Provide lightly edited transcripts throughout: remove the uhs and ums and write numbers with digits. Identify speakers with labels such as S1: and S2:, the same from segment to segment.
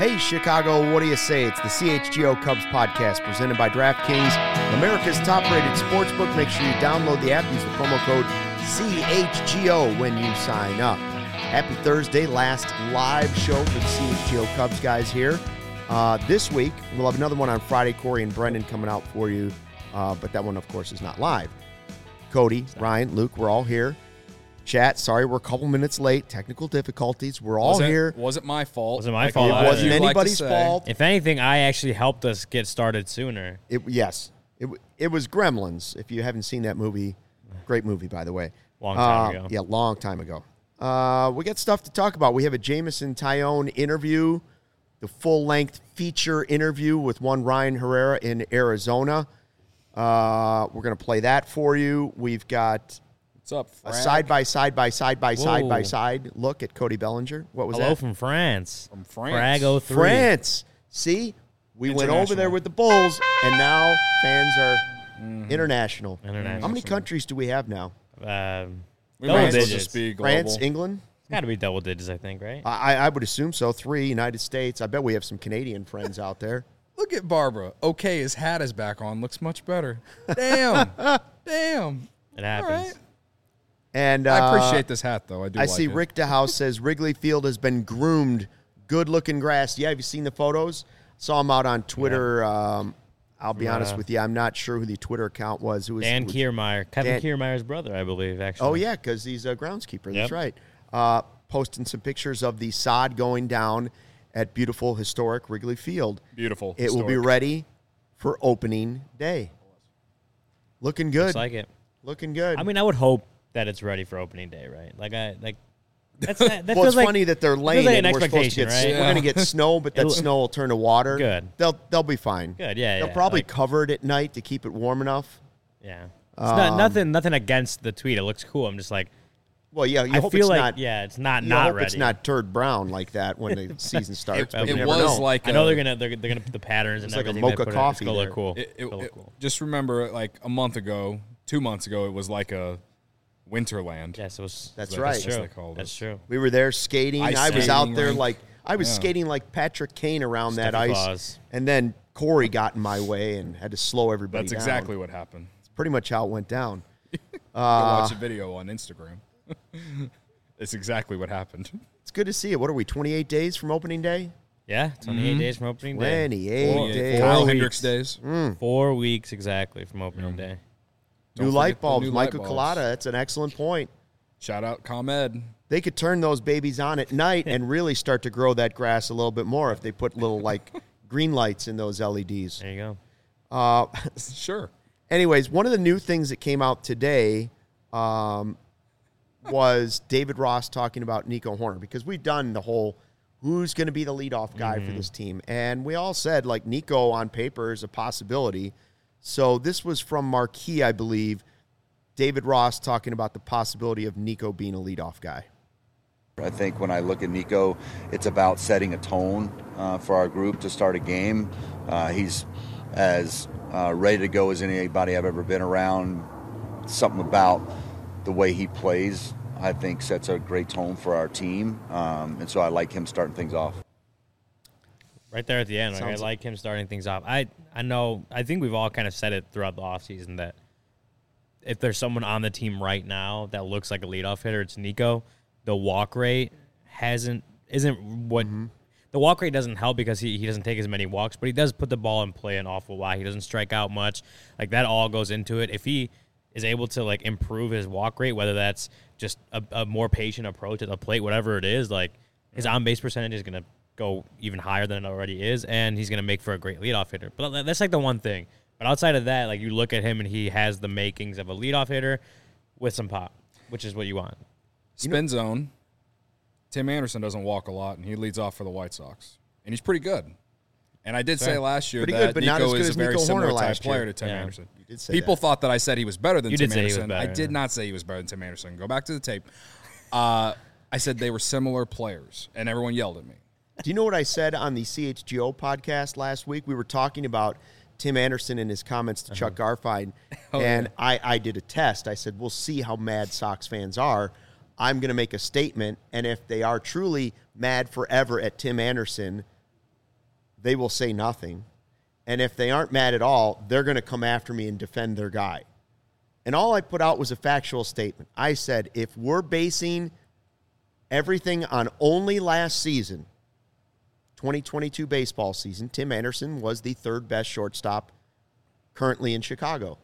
S1: Hey, Chicago, what do you say? It's the CHGO Cubs podcast presented by DraftKings, America's top-rated sportsbook. Make sure you download the app. Use the promo code CHGO when you sign up. Happy Thursday, last live show for the CHGO Cubs guys here. This week, we'll have another one on Friday. Corey and Brendan coming out for you, but that one, of course, is not live. Cody, Ryan, Luke, we're all here. Chat, sorry we're a couple minutes late. Technical difficulties. We're all here.
S2: Wasn't my fault.
S3: Wasn't my fault.
S1: It wasn't anybody's fault.
S3: If anything, I actually helped us get started sooner.
S1: It was Gremlins. If you haven't seen that movie, great movie, by the way.
S3: Long time ago.
S1: Yeah, long time ago. We got stuff to talk about. We have a Jameson Taillon interview, the full-length feature interview with one Ryan Herrera in Arizona. We're going to play that for you. We've got
S2: What's up,
S1: a
S2: Frag?
S1: side-by-side look at Cody Bellinger. What was
S3: Hello
S1: that?
S3: from France.
S2: From France.
S3: Frag 03.
S1: France. See? We went over there with the Bulls, and now fans are international. How many countries do we have now?
S2: We
S3: Double
S2: might as well
S3: digits.
S2: just be global.
S1: France, England?
S3: It's got to be double digits, I think, right?
S1: I would assume so. 3, United States. I bet we have some Canadian friends out there.
S2: Look at Barbara. Okay, his hat is back on. Looks much better. Damn. Damn.
S3: It happens.
S2: All right.
S1: And
S2: I appreciate this hat, though. I do
S1: I
S2: like
S1: see
S2: it.
S1: Rick DeHouse says Wrigley Field has been groomed. Good-looking grass. Yeah, have you seen the photos? Saw him out on Twitter. I'll be honest with you. I'm not sure who the Twitter account was.
S3: Dan Kiermaier. Kevin Kiermaier's brother, I believe, actually.
S1: Oh, yeah, because he's a groundskeeper. That's right. Posting some pictures of the sod going down at beautiful, historic Wrigley Field.
S2: Beautiful.
S1: It will be ready for opening day. Looking good.
S3: Looks like it.
S1: Looking good.
S3: I mean, I would hope that it's ready for opening day, right? That
S1: well,
S3: feels
S1: it's
S3: like,
S1: funny that they're laying
S3: like
S1: it.
S3: an
S1: We're supposed to
S3: expectation,
S1: get.
S3: right?
S1: We're going to get snow, but that snow will turn to water.
S3: Good.
S1: They'll be fine.
S3: Good, yeah.
S1: They'll probably cover it at night to keep it warm enough.
S3: Yeah. It's nothing against the tweet. It looks cool. I'm just like,
S1: well, yeah. You
S3: I
S1: hope
S3: feel
S1: it's
S3: like,
S1: not.
S3: yeah, it's not
S1: hope
S3: ready.
S1: it's not turd brown like that when the season starts. But you
S2: It
S1: never
S2: was
S1: know.
S2: like
S3: I know they're gonna put the patterns and
S1: like a
S3: everything.
S1: mocha
S3: they put
S1: coffee
S3: It's gonna
S1: there.
S3: look cool.
S2: It,
S3: It's gonna look cool.
S2: Just remember, like a month ago, 2 months ago, it was like a Winterland.
S3: Yes, it was.
S1: That's
S2: Like,
S1: right.
S2: that's
S3: True.
S2: what they called
S3: That's
S2: it.
S3: true.
S1: We were there skating.
S2: Ice
S1: I was
S2: skating
S1: out there
S2: rink.
S1: skating like Patrick Kane around that
S3: Steffi
S1: ice.
S3: Claus.
S1: And then Corey got in my way and had to slow everybody
S2: That's
S1: down.
S2: exactly what happened.
S1: It's pretty much how it went down.
S2: Go watch a video on Instagram. It's exactly what happened.
S1: It's good to see it. What are we, 28 days from opening day?
S3: Yeah, 28 days from opening day.
S1: 28 days.
S2: Kyle
S3: 4
S2: Hendricks
S3: weeks.
S2: days.
S3: 4 weeks exactly from opening day.
S1: New
S2: Don't
S1: light
S2: forget the
S1: bulbs.
S2: new light
S1: Michael
S2: bulbs.
S1: Collada, that's an excellent point.
S2: Shout out ComEd.
S1: They could turn those babies on at night and really start to grow that grass a little bit more if they put little, green lights in those LEDs.
S3: There you go.
S2: Sure.
S1: Anyways, one of the new things that came out today was David Ross talking about Nico Horner, because we've done the whole who's going to be the leadoff guy for this team. And we all said, Nico on paper is a possibility. So this was from Marquee, I believe, David Ross talking about the possibility of Nico being a leadoff guy.
S4: I think when I look at Nico, it's about setting a tone for our group to start a game. He's as ready to go as anybody I've ever been around. Something about the way he plays, I think, sets a great tone for our team. And so I like him starting things off.
S3: Right there at the end, I like him starting things off. I think we've all kind of said it throughout the offseason that if there's someone on the team right now that looks like a leadoff hitter, it's Nico. The walk rate isn't what the walk rate doesn't help because he doesn't take as many walks, but he does put the ball in play an awful lot. He doesn't strike out much. That all goes into it. If he is able to improve his walk rate, whether that's just a more patient approach at the plate, whatever it is, his on base percentage is gonna go even higher than it already is, and he's gonna make for a great leadoff hitter. But that's the one thing. But outside of that, you look at him and he has the makings of a leadoff hitter with some pop, which is what you want.
S2: Spin zone. Tim Anderson doesn't walk a lot, and he leads off for the White Sox. And he's pretty good. And I did say last year
S1: Pretty
S2: that
S1: good, but not as
S2: Nico
S1: good
S2: is a
S1: as
S2: very
S1: Nico
S2: similar
S1: Horner
S2: type
S1: last
S2: player
S1: year.
S2: to Tim
S3: Yeah.
S2: Anderson.
S1: You did say
S2: People
S1: that.
S2: thought that I said he was better than
S3: You
S2: Tim
S3: did say he was
S2: Anderson.
S3: better,
S2: I did
S3: yeah.
S2: not say he was better than Tim Anderson. Go back to the tape. I said they were similar players, and everyone yelled at me.
S1: Do you know what I said on the CHGO podcast last week? We were talking about Tim Anderson and his comments to Chuck Garfien, and I did a test. I said, we'll see how mad Sox fans are. I'm going to make a statement, and if they are truly mad forever at Tim Anderson, they will say nothing. And if they aren't mad at all, they're going to come after me and defend their guy. And all I put out was a factual statement. I said, if we're basing everything on only last season, 2022 baseball season, Tim Anderson was the third best shortstop currently in Chicago.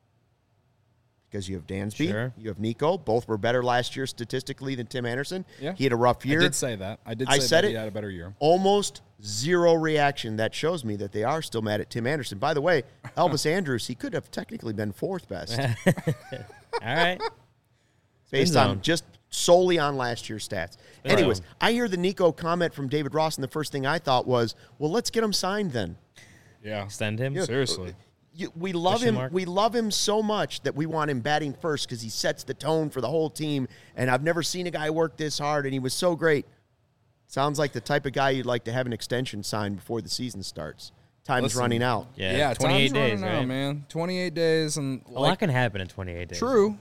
S1: Because you have Dansby,
S3: Sure.
S1: you have Nico. Both were better last year statistically than Tim Anderson.
S2: Yeah.
S1: He had a rough year.
S2: I did say that.
S1: I said
S2: that
S1: it.
S2: he had a better year.
S1: Almost zero reaction. That shows me that they are still mad at Tim Anderson. By the way, Elvis Andrus, he could have technically been fourth best
S3: All right.
S1: based on just solely on last year's stats.
S3: Spin
S1: Anyways,
S3: zone.
S1: I hear the Nico comment from David Ross, and the first thing I thought was, well, let's get him signed then.
S2: Yeah.
S3: Extend him.
S2: Seriously.
S1: We love
S3: Question
S1: him.
S3: mark?
S1: We love him so much that we want him batting first because he sets the tone for the whole team. And I've never seen a guy work this hard, and he was so great. Sounds like the type of guy you'd like to have an extension signed before the season starts. Time's
S2: Listen,
S1: running out.
S3: Yeah, 28
S2: time's
S3: days,
S2: running out,
S3: right?
S2: man. 28 days. And
S3: A lot can happen in 28 days.
S2: True.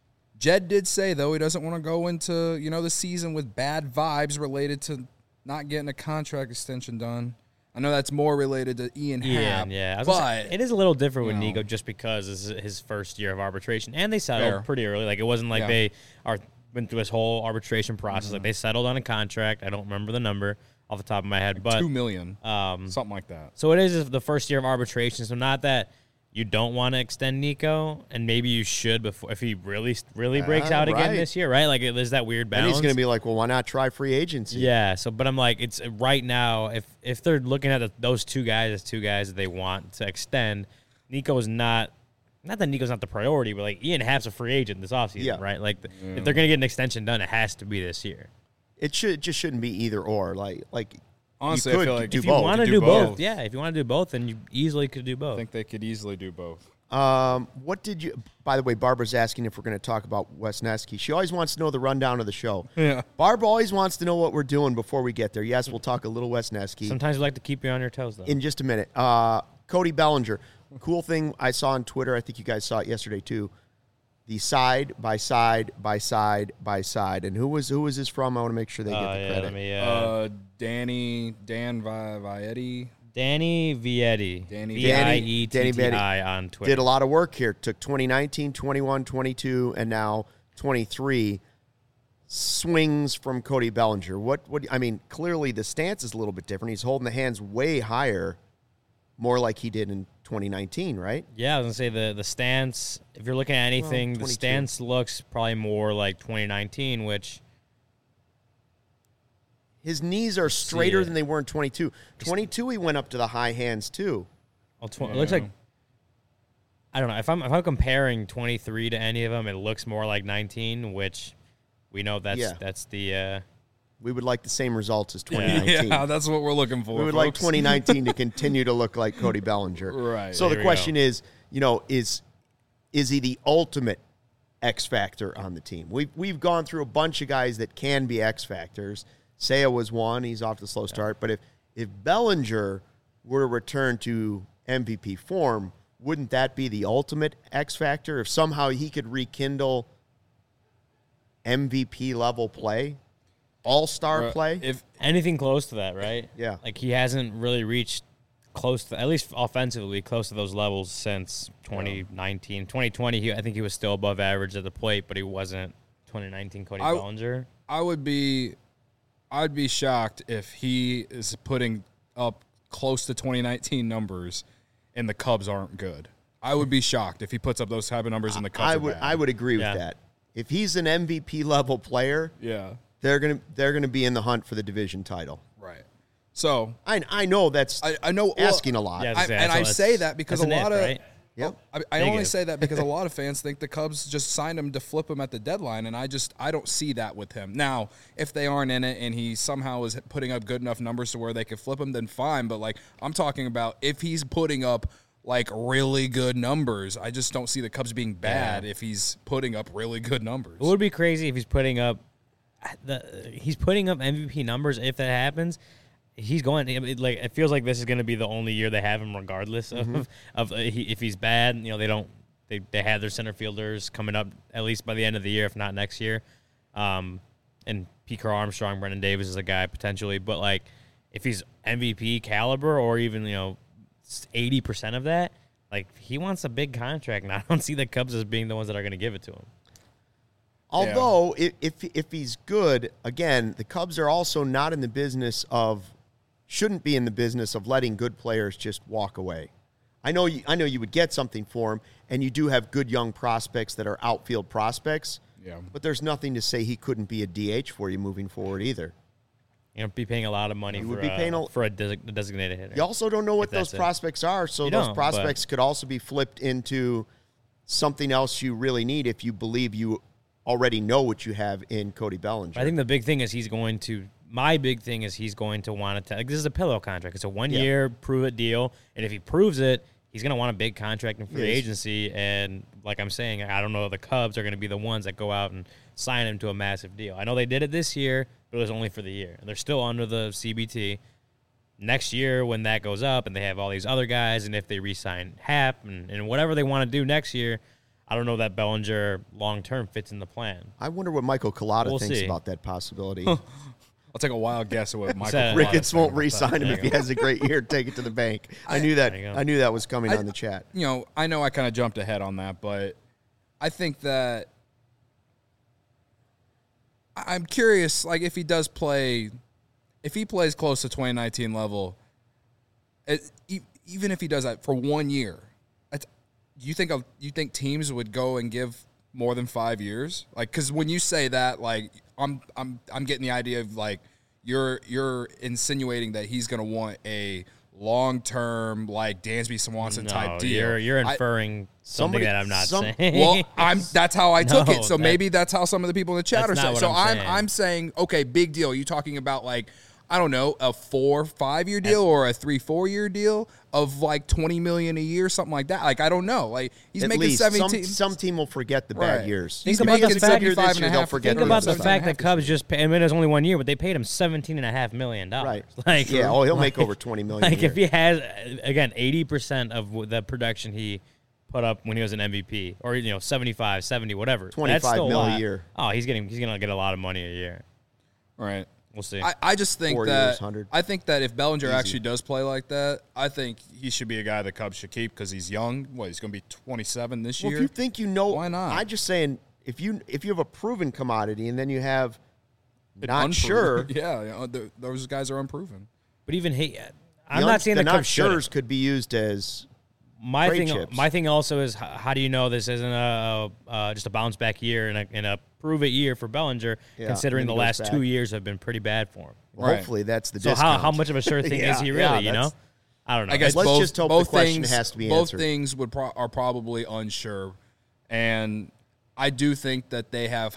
S2: Jed did say, though, he doesn't want to go into, the season with bad vibes related to not getting a contract extension done. I know that's more related to Ian Happ.
S3: Yeah. I was gonna say,
S2: but
S3: it is a little different with
S2: you know.
S3: Nico just because this is his first year of arbitration. And they settled
S2: Fair.
S3: pretty early. Like, it wasn't like
S2: Yeah.
S3: they went through this whole arbitration process. Like, they settled on a contract. I don't remember the number off the top of my head. But
S2: $2 million, something like that.
S3: So it is the first year of arbitration. So not that you don't want to extend Nico, and maybe you should before if he really breaks out again
S1: right.
S3: this year, right? Like there's that weird
S1: And
S3: balance.
S1: he's going to be like, well, why not try free agency?
S3: Yeah. So, but I'm like, it's right now. If they're looking at those two guys as two guys that they want to extend, Nico's not. Not that Nico's not the priority, but like Ian Happ's a free agent this offseason,
S1: Yeah.
S3: right? Like if they're going to get an extension done, it has to be this year.
S1: It just shouldn't be either or. Like
S2: Honestly,
S1: you
S2: I
S1: could
S2: feel like
S1: do
S3: If you
S1: both.
S3: want to
S2: Do
S3: do both,
S2: both.
S3: yeah. If you want to do both, then you easily could do
S2: I
S3: both.
S2: think they could easily do both.
S1: What did you? By the way, Barbara's asking if we're going to talk about Wesneski. She always wants to know the rundown of the show.
S2: Yeah.
S1: Barb always wants to know what we're doing before we get there. Yes, we'll talk a little Wesneski
S3: Sometimes we like to keep you on your toes, though.
S1: in just a minute. Cody Bellinger, cool thing I saw on Twitter. I think you guys saw it yesterday too. The side by side by side by side, and who was this from? I want to make sure they get the credit.
S3: Let me,
S2: Dan Vietti.
S3: Danny Vietti.
S2: Danny
S3: Vietti on Twitter.
S1: Did a lot of work here. Took 2019, 21, 22, and now 23 swings from Cody Bellinger. What I mean, clearly the stance is a little bit different. He's holding the hands way higher, more like he did in 2019, right?
S3: Yeah, I was going to say the stance, if you're looking at anything, the
S1: 22.
S3: stance looks probably more like 2019, which...
S1: His knees are straighter
S3: it.
S1: than they were in 22. 22, he went up to the high hands too.
S3: It looks like... I don't know. If I'm comparing 23 to any of them, it looks more like 19, which we know that's the...
S1: We would like the same results as 2019.
S2: Yeah, that's what we're looking for.
S1: We would like
S2: folks.
S1: 2019 to continue to look like Cody Bellinger.
S2: Right.
S1: So
S3: There
S1: the
S3: we
S1: question
S3: go.
S1: is, is he the ultimate X factor on the team? We've gone through a bunch of guys that can be X factors. Seiya was one. He's off to a slow start. But if Bellinger were to return to MVP form, wouldn't that be the ultimate X factor? If somehow he could rekindle MVP level play, all-star play?
S2: If
S3: Anything close to that, right?
S1: Yeah.
S3: Like he hasn't really reached close to, at least offensively, close to those levels since 2019. 2020, I think he was still above average at the plate, but he wasn't 2019 Cody Bellinger.
S2: I'd be shocked if he is putting up close to 2019 numbers and the Cubs aren't good. I would be shocked if he puts up those type of numbers and the Cubs are bad.
S1: I would agree
S3: Yeah.
S1: with that. If he's an MVP level player,
S2: Yeah.
S1: they're gonna be in the hunt for the division title.
S2: Right. So
S1: I know that's
S2: I know
S1: asking a lot.
S3: Yeah,
S2: I say that because a lot of
S3: right?
S1: Yep.
S2: I only
S3: Negative.
S2: say that because a lot of fans think the Cubs just signed him to flip him at the deadline, and I don't see that with him. Now, if they aren't in it and he somehow is putting up good enough numbers to where they could flip him, then fine. But like I'm talking about if he's putting up like really good numbers, I just don't see the Cubs being bad if he's putting up really good numbers.
S3: It would be crazy if he's putting up MVP numbers. If that happens, he's going. It feels like this is going to be the only year they have him, regardless of if he's bad. They have their center fielders coming up at least by the end of the year, if not next year. And Pete Crow Armstrong, Brendan Davis is a guy potentially, but like if he's MVP caliber or even 80% of that, like he wants a big contract, and I don't see the Cubs as being the ones that are going to give it to him.
S1: Although, if he's good, again, the Cubs are also not in the business shouldn't be in the business of letting good players just walk away. I know you would get something for him, and you do have good young prospects that are outfield prospects.
S2: Yeah.
S1: But there's nothing to say he couldn't be a DH for you moving forward either.
S3: Be paying a lot of money for a designated hitter.
S1: You also don't know what those prospects are, so those prospects could also be flipped into something else you really need if you believe you already know what you have in Cody Bellinger.
S3: I think the big thing is he's going to want to, like, this is a pillow contract. It's a 1 year prove it deal. And if he proves it, he's going to want a big contract in free agency. And like I'm saying, I don't know if the Cubs are going to be the ones that go out and sign him to a massive deal. I know they did it this year, but it was only for the year. They're still under the CBT. Next year, when that goes up and they have all these other guys, and if they re-sign Happ and whatever they want to do next year, I don't know that Bellinger long-term fits in the plan.
S1: I wonder what Michael Collada thinks about that possibility.
S2: I'll take a wild guess at what Michael Collada
S1: Ricketts won't re-sign him if he has a great year. Take it to the bank. I knew that was coming on the chat.
S2: I know I kind of jumped ahead on that, but I think that I'm curious, like, if he plays close to 2019 level, even if he does that for 1 year, do you think teams would go and give more than 5 years? Like, because when you say that, like, I'm getting the idea of, like, you're insinuating that he's going to want a long-term, like, Dansby Swanson type deal.
S3: You're inferring something that I'm not saying.
S2: Well, that's how I took it. So maybe that's how some of the people in the chat are saying. So I'm saying, okay, big deal. Are you talking about, like, I don't know, a 4-5 year deal or a 3-4 year deal of like $20 million a year, something like that? Like, I don't know. Like, he's making 17.
S1: Some team will forget the bad years.
S3: Think about the fact that Cubs just paid. I mean, it was only 1 year, but they paid him $17.5 million.
S1: Right.
S3: Like,
S1: he'll make over $20 million.
S3: Like, if he has, again, 80% of the production he put up when he was an MVP, or 75, 70, whatever,
S1: $25 million a year.
S3: Oh, he's gonna get a lot of money a year.
S2: Right.
S3: We'll see.
S2: I just think
S1: 4
S2: that
S1: years, 100.
S2: I think that if Bellinger actually does play like that, I think he should be a guy the Cubs should keep because he's young. He's going to be 27 this year.
S1: If you think
S2: why not?
S1: I'm just saying, if you have a proven commodity and then you have not sure,
S2: those guys are unproven.
S3: But even I'm not saying the Cubs
S1: sures could be used as.
S3: My thing also is, how do you know this isn't just a bounce back year and a prove it year for Bellinger, considering the last 2 years have been pretty bad for him?
S1: Well, hopefully that's the
S3: so
S1: discount.
S3: how much of a sure thing is he really? I don't know.
S2: I guess
S1: let's just hope the question has to be answered.
S2: Both things are probably unsure, and I do think that they have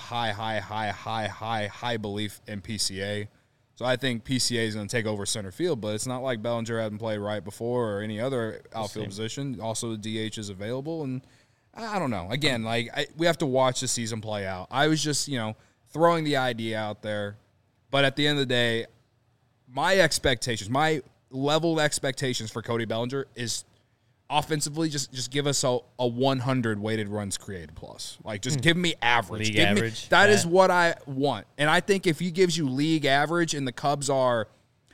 S2: high belief in PCA. So I think PCA is going to take over center field, but it's not like Bellinger hadn't played right before or any other outfield position. Also, the DH is available, and I don't know. Again, we have to watch the season play out. I was just, throwing the idea out there, but at the end of the day, my level of expectations for Cody Bellinger is offensively just give us a 100 weighted runs created plus. Like, just give me average.
S3: League average.
S2: That is what I want. And I think if he gives you league average and the Cubs are,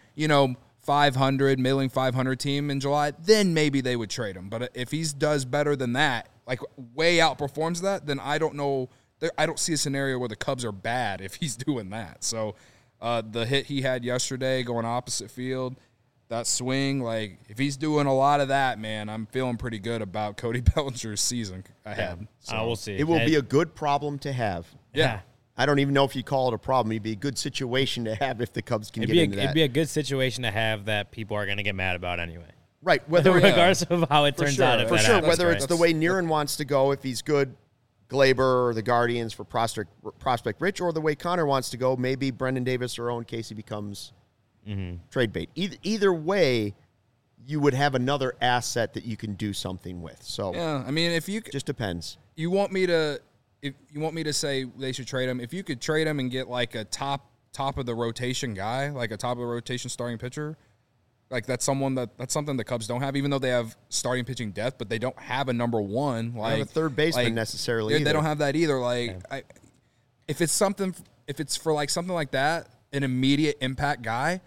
S2: 500, middling 500 team in July, then maybe they would trade him. But if he does better than that, like way outperforms that, then I don't know. I don't see a scenario where the Cubs are bad if he's doing that. So the hit he had yesterday going opposite field, that swing, like, if he's doing a lot of that, man, I'm feeling pretty good about Cody Bellinger's season ahead.
S3: Yeah.
S2: So
S3: we'll see.
S1: It will be a good problem to have.
S2: Yeah.
S1: I don't even know if you call it a problem. It'd be a good situation to have if the Cubs can get into that.
S3: It'd be a good situation to have that people are going to get mad about anyway.
S1: Right.
S3: Regardless of how it turns out.
S1: For sure. Whether it's the way Niren wants to go, if he's good, Glaber or the Guardians for Prospect Rich, or the way Connor wants to go, maybe Brendan Davis or Owen Casey becomes trade bait. Either way, you would have another asset that you can do something with. So
S2: yeah, I mean, if you
S1: just depends.
S2: You want me to say they should trade him? If you could trade him and get like a top of the rotation guy, like a top of the rotation starting pitcher, like that's something the Cubs don't have, even though they have starting pitching depth, but they don't have a number one. Like,
S1: they have a third baseman necessarily.
S2: They don't have that either. Like, if it's for like something like that, an immediate impact guy,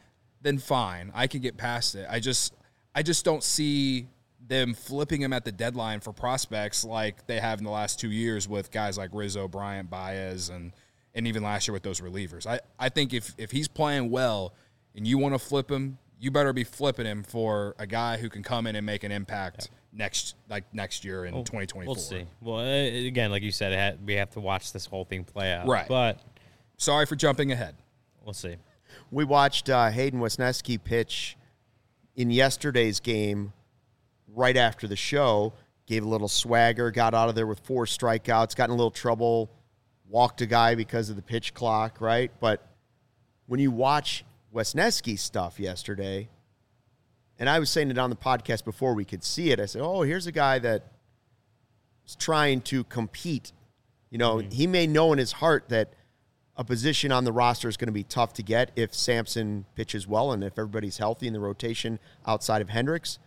S2: then fine. I can get past it. I just don't see them flipping him at the deadline for prospects like they have in the last 2 years with guys like Rizzo, Bryant, Baez, and even last year with those relievers. I think if he's playing well and you want to flip him, you better be flipping him for a guy who can come in and make an impact next year in 2024.
S3: We'll see. Well, again, like you said, we have to watch this whole thing play out.
S2: Right.
S3: But
S2: sorry for jumping ahead.
S3: We'll see.
S1: We watched Hayden Wesneski pitch in yesterday's game right after the show, gave a little swagger, got out of there with 4 strikeouts, got in a little trouble, walked a guy because of the pitch clock, right? But when you watch Wesneski's stuff yesterday, and I was saying it on the podcast before we could see it, I said, oh, here's a guy that is trying to compete. You know, he may know in his heart that a position on the roster is going to be tough to get if Sampson pitches well and if everybody's healthy in the rotation outside of Hendricks.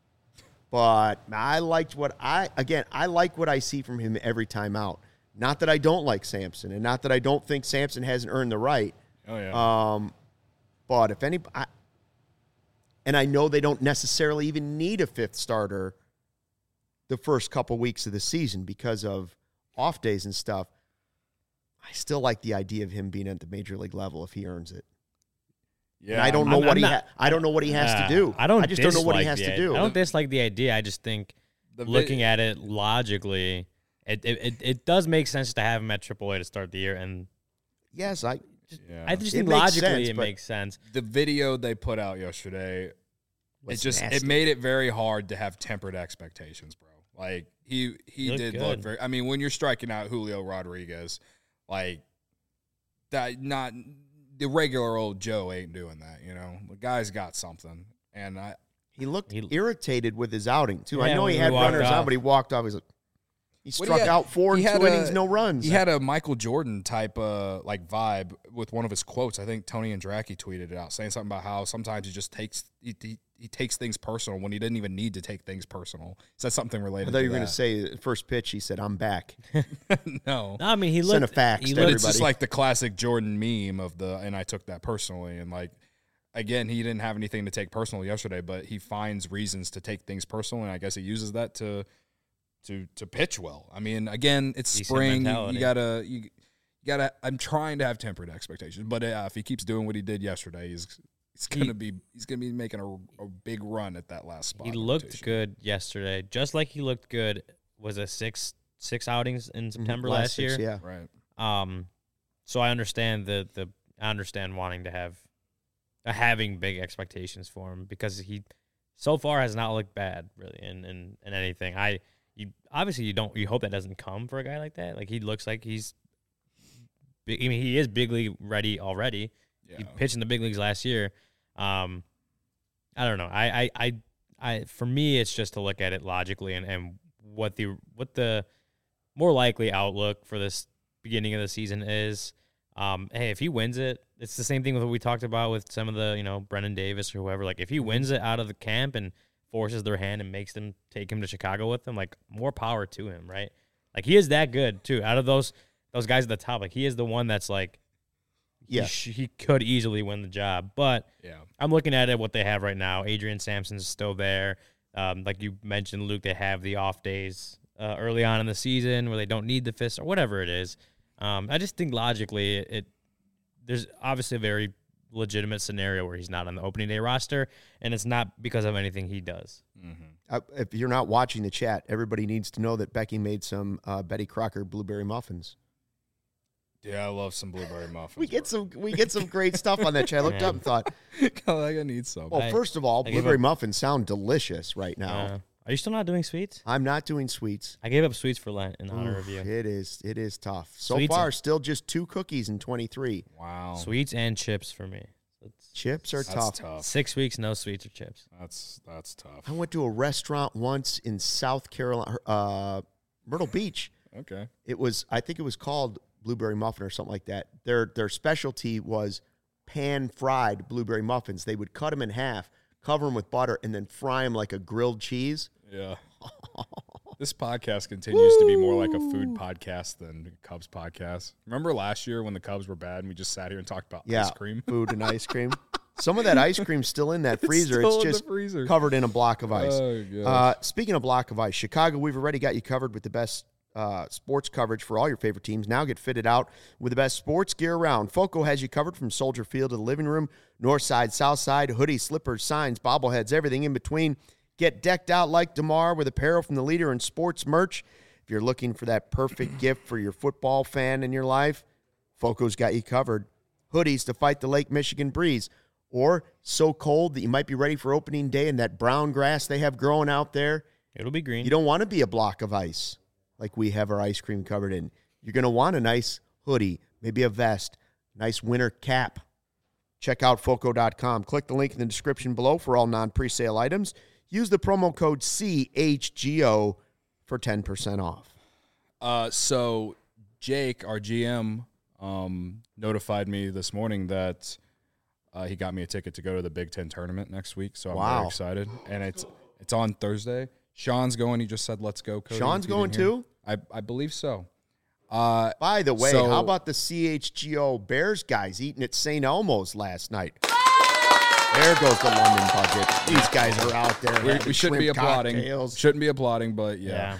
S1: But I like what I see from him every time out. Not that I don't like Sampson, and not that I don't think Sampson hasn't earned the right.
S2: Oh, yeah.
S1: But if any, and I know they don't necessarily even need a 5th starter the first couple weeks of the season because of off days and stuff, I still like the idea of him being at the major league level if he earns it. Yeah, and I don't know I don't know what he has to do. I just don't know what he has to do.
S3: I don't dislike the idea. I just think looking at it logically, it does make sense to have him at AAA to start the year. And
S1: yes,
S3: I just think logically it makes sense.
S2: The video they put out yesterday, it made it very hard to have tempered expectations, bro. Like he did look very. I mean, when you're striking out Julio Rodriguez, like that, not the regular old Joe ain't doing that. You know, the guy's got something, and
S1: he looked irritated with his outing too.
S3: Yeah,
S1: I know he had runners on, but he walked off. He's like, he struck out 4 in 2 innings, no runs.
S2: He had a Michael Jordan type like vibe with one of his quotes. I think Tony Andracki tweeted it out, saying something about how sometimes he just takes things personal when he didn't even need to take things personal. He said something related.
S1: I thought you were going to say first pitch. He said, "I'm back."
S2: No,
S3: I mean he looked.
S1: Send a fax to everybody.
S2: It's just like the classic Jordan meme of and I took that personally, and like. Again, he didn't have anything to take personal yesterday, but he finds reasons to take things personal, and I guess he uses that to pitch well. I mean, again, it's
S3: decent
S2: spring.
S3: Mentality.
S2: You gotta. I'm trying to have tempered expectations, but if he keeps doing what he did yesterday, he's gonna be making a big run at that last spot.
S3: He looked good yesterday, just like he looked good. Was it six outings in September last year?
S1: Yeah,
S2: right.
S3: So I understand I understand wanting to have. Having big expectations for him because he so far has not looked bad really in anything. You hope that doesn't come for a guy like that. Like he looks like he's big. I mean, he is big league ready already. Yeah. He pitched in the big leagues last year. I don't know. I for me it's just to look at it logically and what the more likely outlook for this beginning of the season is. Hey, if he wins it, it's the same thing with what we talked about with some of the, Brennan Davis or whoever. Like, if he wins it out of the camp and forces their hand and makes them take him to Chicago with them, like, more power to him, right? Like, he is that good, too. Out of those guys at the top, like, he is the one that's, like, he could easily win the job. But I'm looking at it, what they have right now. Adrian Sampson's still there. Like you mentioned, Luke, they have the off days early on in the season where they don't need the fist or whatever it is. I just think logically there's obviously a very legitimate scenario where he's not on the opening day roster, and it's not because of anything he does.
S1: Mm-hmm. If you're not watching the chat, everybody needs to know that Becky made some Betty Crocker blueberry muffins.
S2: Yeah, I love some blueberry muffins.
S1: We get some great stuff on that chat. I looked up and thought,
S2: I need some.
S1: Well, first of all, blueberry muffins sound delicious right now.
S3: Are you still not doing sweets?
S1: I'm not doing sweets.
S3: I gave up sweets for Lent in honor of you.
S1: It is tough. So far, still just 2 cookies in 23.
S2: Wow.
S3: Sweets and chips for me.
S1: Chips are tough.
S3: 6 weeks, no sweets or chips.
S2: That's tough.
S1: I went to a restaurant once in South Carolina, Myrtle Beach.
S2: Okay.
S1: I think it was called Blueberry Muffin or something like that. Their specialty was pan-fried blueberry muffins. They would cut them in half, cover them with butter, and then fry them like a grilled cheese.
S2: Yeah. This podcast continues to be more like a food podcast than a Cubs podcast. Remember last year when the Cubs were bad and we just sat here and talked about ice cream?
S1: Food and ice cream. Some of that ice cream's still in that freezer.
S2: still
S1: It's
S2: in the
S1: just
S2: freezer.
S1: covered in a block of ice.
S2: Oh, gosh.
S1: Speaking of block of ice, Chicago, we've already got you covered with the best sports coverage for all your favorite teams. Now get fitted out with the best sports gear around. Foco has you covered from Soldier Field to the living room, north side, south side, hoodies, slippers, signs, bobbleheads, everything in between. Get decked out like DeMar with apparel from the leader in sports merch. If you're looking for that perfect gift for your football fan in your life, Foco's got you covered. Hoodies to fight the Lake Michigan breeze, or so cold that you might be ready for opening day in that brown grass they have growing out there.
S3: It'll be green.
S1: You don't want to be a block of ice like we have our ice cream covered in. You're going to want a nice hoodie, maybe a vest, nice winter cap. Check out Foco.com. Click the link in the description below for all non-presale items. Use the promo code CHGO for 10% off.
S2: So Jake, our GM, notified me this morning that he got me a ticket to go to the Big Ten tournament next week. So I'm very excited. And it's on Thursday. Sean's going. He just said, let's go, Cody.
S1: Sean's going too?
S2: I believe so.
S1: By the way, how about the CHGO Bears guys eating at St. Elmo's last night? There goes the London budget. These guys are out there.
S2: We shouldn't be applauding.
S1: Cocktails.
S2: Shouldn't be applauding, but yeah.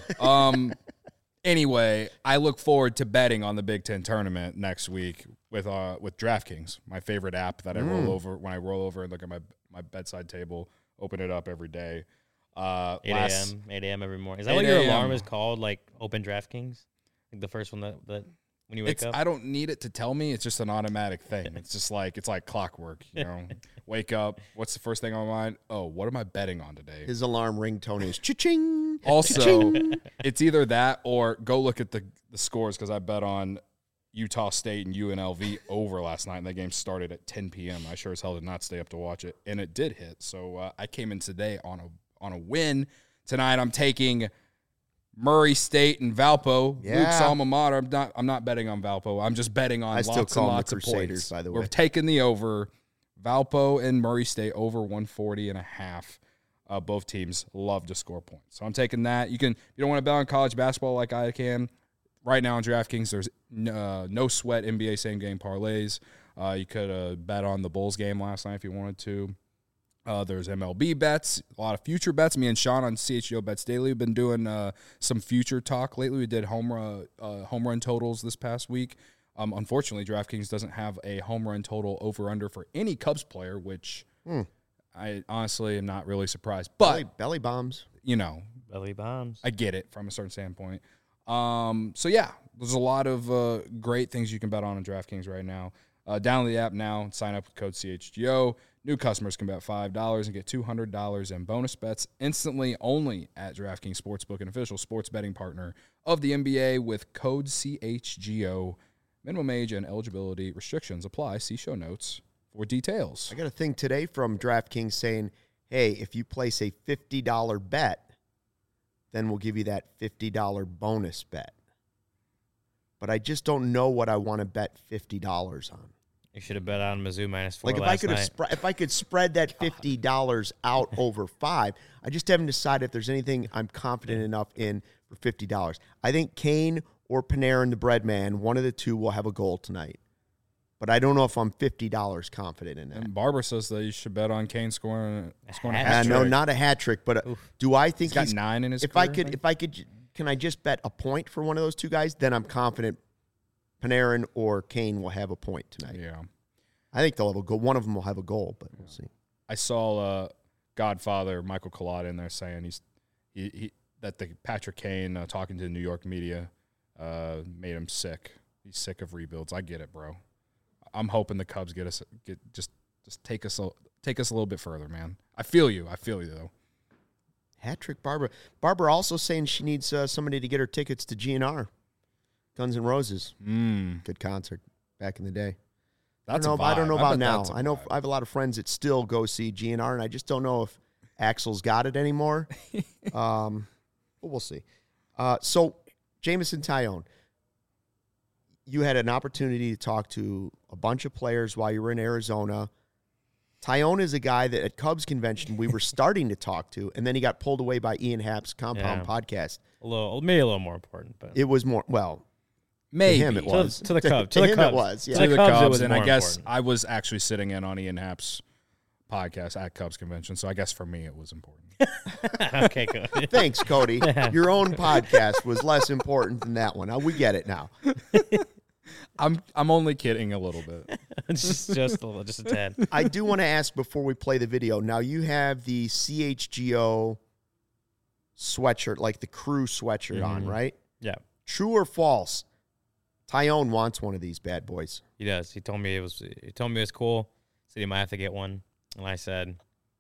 S2: Anyway, I look forward to betting on the Big Ten tournament next week with DraftKings, my favorite app that I roll over when I roll over and look at my bedside table, open it up every day.
S3: 8 a.m. every morning. Is that what your alarm is called? Like Open DraftKings, like the first one that when you wake up.
S2: I don't need it to tell me. It's just an automatic thing. It's like clockwork. You know, wake up. What's the first thing on my mind? Oh, what am I betting on today?
S1: His alarm ringtone is cha-ching.
S2: Also,
S1: cha-ching.
S2: It's either that or go look at the scores because I bet on Utah State and UNLV over last night, and that game started at 10 p.m. I sure as hell did not stay up to watch it, and it did hit. So I came in today on a win. Tonight I'm taking Murray State and Valpo, Luke's alma mater. I'm not betting on Valpo. I'm just betting on lots and lots of points.
S1: By the way,
S2: we're taking the over. Valpo and Murray State over 140.5. Both teams love to score points, so I'm taking that. You don't want to bet on college basketball like I can. Right now on DraftKings, there's no sweat NBA same game parlays. You could bet on the Bulls game last night if you wanted to. There's MLB bets, a lot of future bets. Me and Sean on CHGO Bets Daily have been doing some future talk lately. We did home run totals this past week. Unfortunately, DraftKings doesn't have a home run total over-under for any Cubs player, which I honestly am not really surprised. But
S1: belly bombs.
S3: Belly bombs.
S2: I get it from a certain standpoint. So, yeah, there's a lot of great things you can bet on DraftKings right now. Download the app now and sign up with code CHGO. New customers can bet $5 and get $200 in bonus bets instantly only at DraftKings Sportsbook, an official sports betting partner of the NBA with code CHGO. Minimum age and eligibility restrictions apply. See show notes for details.
S1: I got a thing today from DraftKings saying, hey, if you place a $50 bet, then we'll give you that $50 bonus bet. But I just don't know what I want to bet $50 on.
S3: You should have bet on Mizzou -4
S1: like if I could spread that $50 out over 5, I just haven't decided if there's anything I'm confident enough in for $50. I think Kane or Panarin, the bread man, one of the two will have a goal tonight. But I don't know if I'm $50 confident in that.
S2: And Barbara says that you should bet on Kane scoring a hat trick.
S1: No, not a hat trick, but do I think
S2: he's got 9 in his career?
S1: Can I just bet a point for one of those two guys? Then I'm confident Panarin or Kane will have a point tonight.
S2: Yeah.
S1: I think they'll have a goal. One of them will have a goal, but we'll see.
S2: I saw Godfather Michael Collada in there saying that the Patrick Kane talking to the New York media made him sick. He's sick of rebuilds. I get it, bro. I'm hoping the Cubs just take us a little bit further, man. I feel you though.
S1: Hat trick, Barbara. Barbara also saying she needs somebody to get her tickets to GNR, Guns N' Roses. Good concert back in the day. I don't know about now. I know I have a lot of friends that still go see GNR, and I just don't know if Axel's got it anymore. But we'll see. So, Jameson Taillon, you had an opportunity to talk to a bunch of players while you were in Arizona. Taillon is a guy that at Cubs convention we were starting to talk to, and then he got pulled away by Ian Happ's Compound podcast.
S3: Maybe a little more important, but
S1: it was more
S2: maybe
S1: to him it was
S3: to the Cubs.
S1: To him it was. Yeah.
S2: To the Cubs,
S3: it was
S2: and I guess
S3: important.
S2: I was actually sitting in on Ian Happ's podcast at Cubs Convention, so I guess for me it was important.
S3: Okay, good.
S1: Thanks, Cody. Your own podcast was less important than that one. We get it now.
S2: I'm only kidding a little bit.
S3: just a tad.
S1: I do want to ask before we play the video. Now, you have the CHGO sweatshirt, like the crew sweatshirt on, right?
S3: Yeah.
S1: True or false? Tyone wants one of these bad boys.
S3: He does. He told me it was cool. Said he might have to get one, and I said,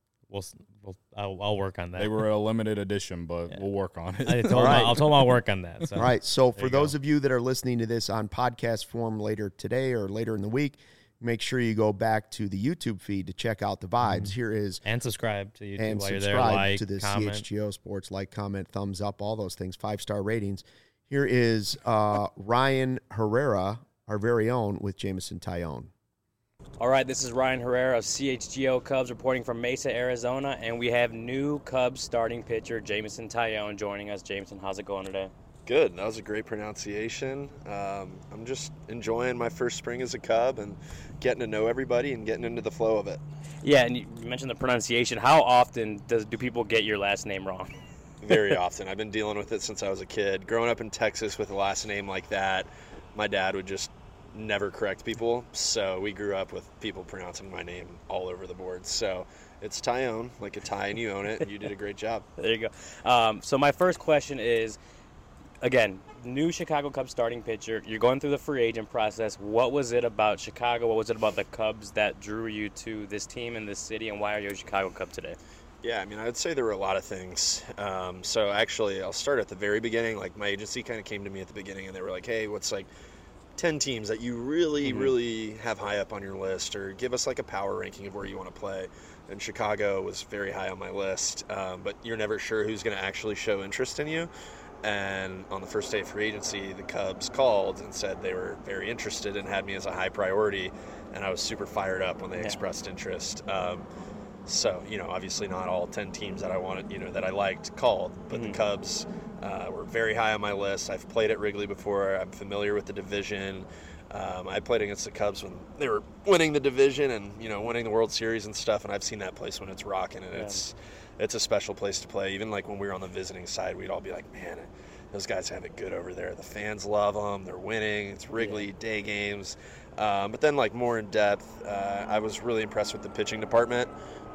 S3: I'll work on that.
S2: They were a limited edition, but we'll work on it.
S3: I told him I'll work on that. So.
S1: All right. So for those of you that are listening to this on podcast form later today or later in the week, make sure you go back to the YouTube feed to check out the vibes. Here is
S3: and subscribe to YouTube
S1: and
S3: while
S1: subscribe
S3: you're there. Like,
S1: to the
S3: comment.
S1: CHGO Sports, like, comment, thumbs up, all those things, 5-star ratings. Here is Ryan Herrera, our very own, with Jameson Tyone.
S5: All right, this is Ryan Herrera of CHGO Cubs reporting from Mesa, Arizona, and we have new Cubs starting pitcher Jameson Tyone joining us. Jameson, how's it going today?
S6: Good. That was a great pronunciation. I'm just enjoying my first spring as a Cub and getting to know everybody and getting into the flow of it.
S5: Yeah, and you mentioned the pronunciation. How often do people get your last name wrong?
S6: Very often. I've been dealing with it since I was a kid. Growing up in Texas with a last name like that, my dad would just never correct people, so we grew up with people pronouncing my name all over the board. So it's Tyone, like a tie and you own it, and you did a great job.
S5: There you go. So my first question is, again, new Chicago Cubs starting pitcher. You're going through the free agent process. What was it about Chicago? What was it about the Cubs that drew you to this team in this city, and why are you a Chicago Cub today?
S6: Yeah, I mean, I would say there were a lot of things. So actually, I'll start at the very beginning. Like, my agency kind of came to me at the beginning, and they were like, hey, what's like 10 teams that you really have high up on your list, or give us like a power ranking of where you want to play. And Chicago was very high on my list, but you're never sure who's going to actually show interest in you. And on the first day of free agency, the Cubs called and said they were very interested and had me as a high priority, and I was super fired up when they expressed interest. So, obviously not all 10 teams that I wanted, that I liked called, but the Cubs were very high on my list. I've played at Wrigley before. I'm familiar with the division. I played against the Cubs when they were winning the division and, winning the World Series and stuff, and I've seen that place when it's rocking, and it's a special place to play. Even like when we were on the visiting side, we'd all be like, man, those guys have it good over there. The fans love them. They're winning. It's Wrigley, day games. But then, like, more in depth, I was really impressed with the pitching department.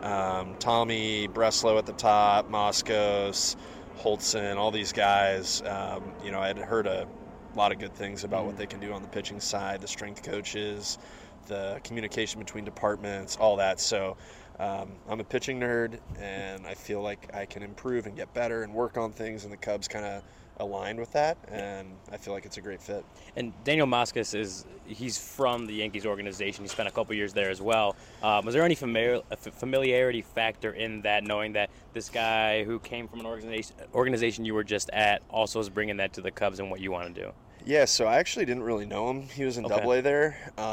S6: Tommy, Breslow at the top, Moskos, Holtzen, all these guys. I had heard a lot of good things about what they can do on the pitching side, the strength coaches, the communication between departments, all that. So I'm a pitching nerd, and I feel like I can improve and get better and work on things, and the Cubs kind of aligned with that, and I feel like it's a great fit.
S5: And Daniel Moskos he's from the Yankees organization. He spent a couple years there as well. Was there any familiarity factor in that, knowing that this guy who came from an organization you were just at also is bringing that to the Cubs and what you want to do?
S6: Yeah, so I actually didn't really know him. He was in AA there.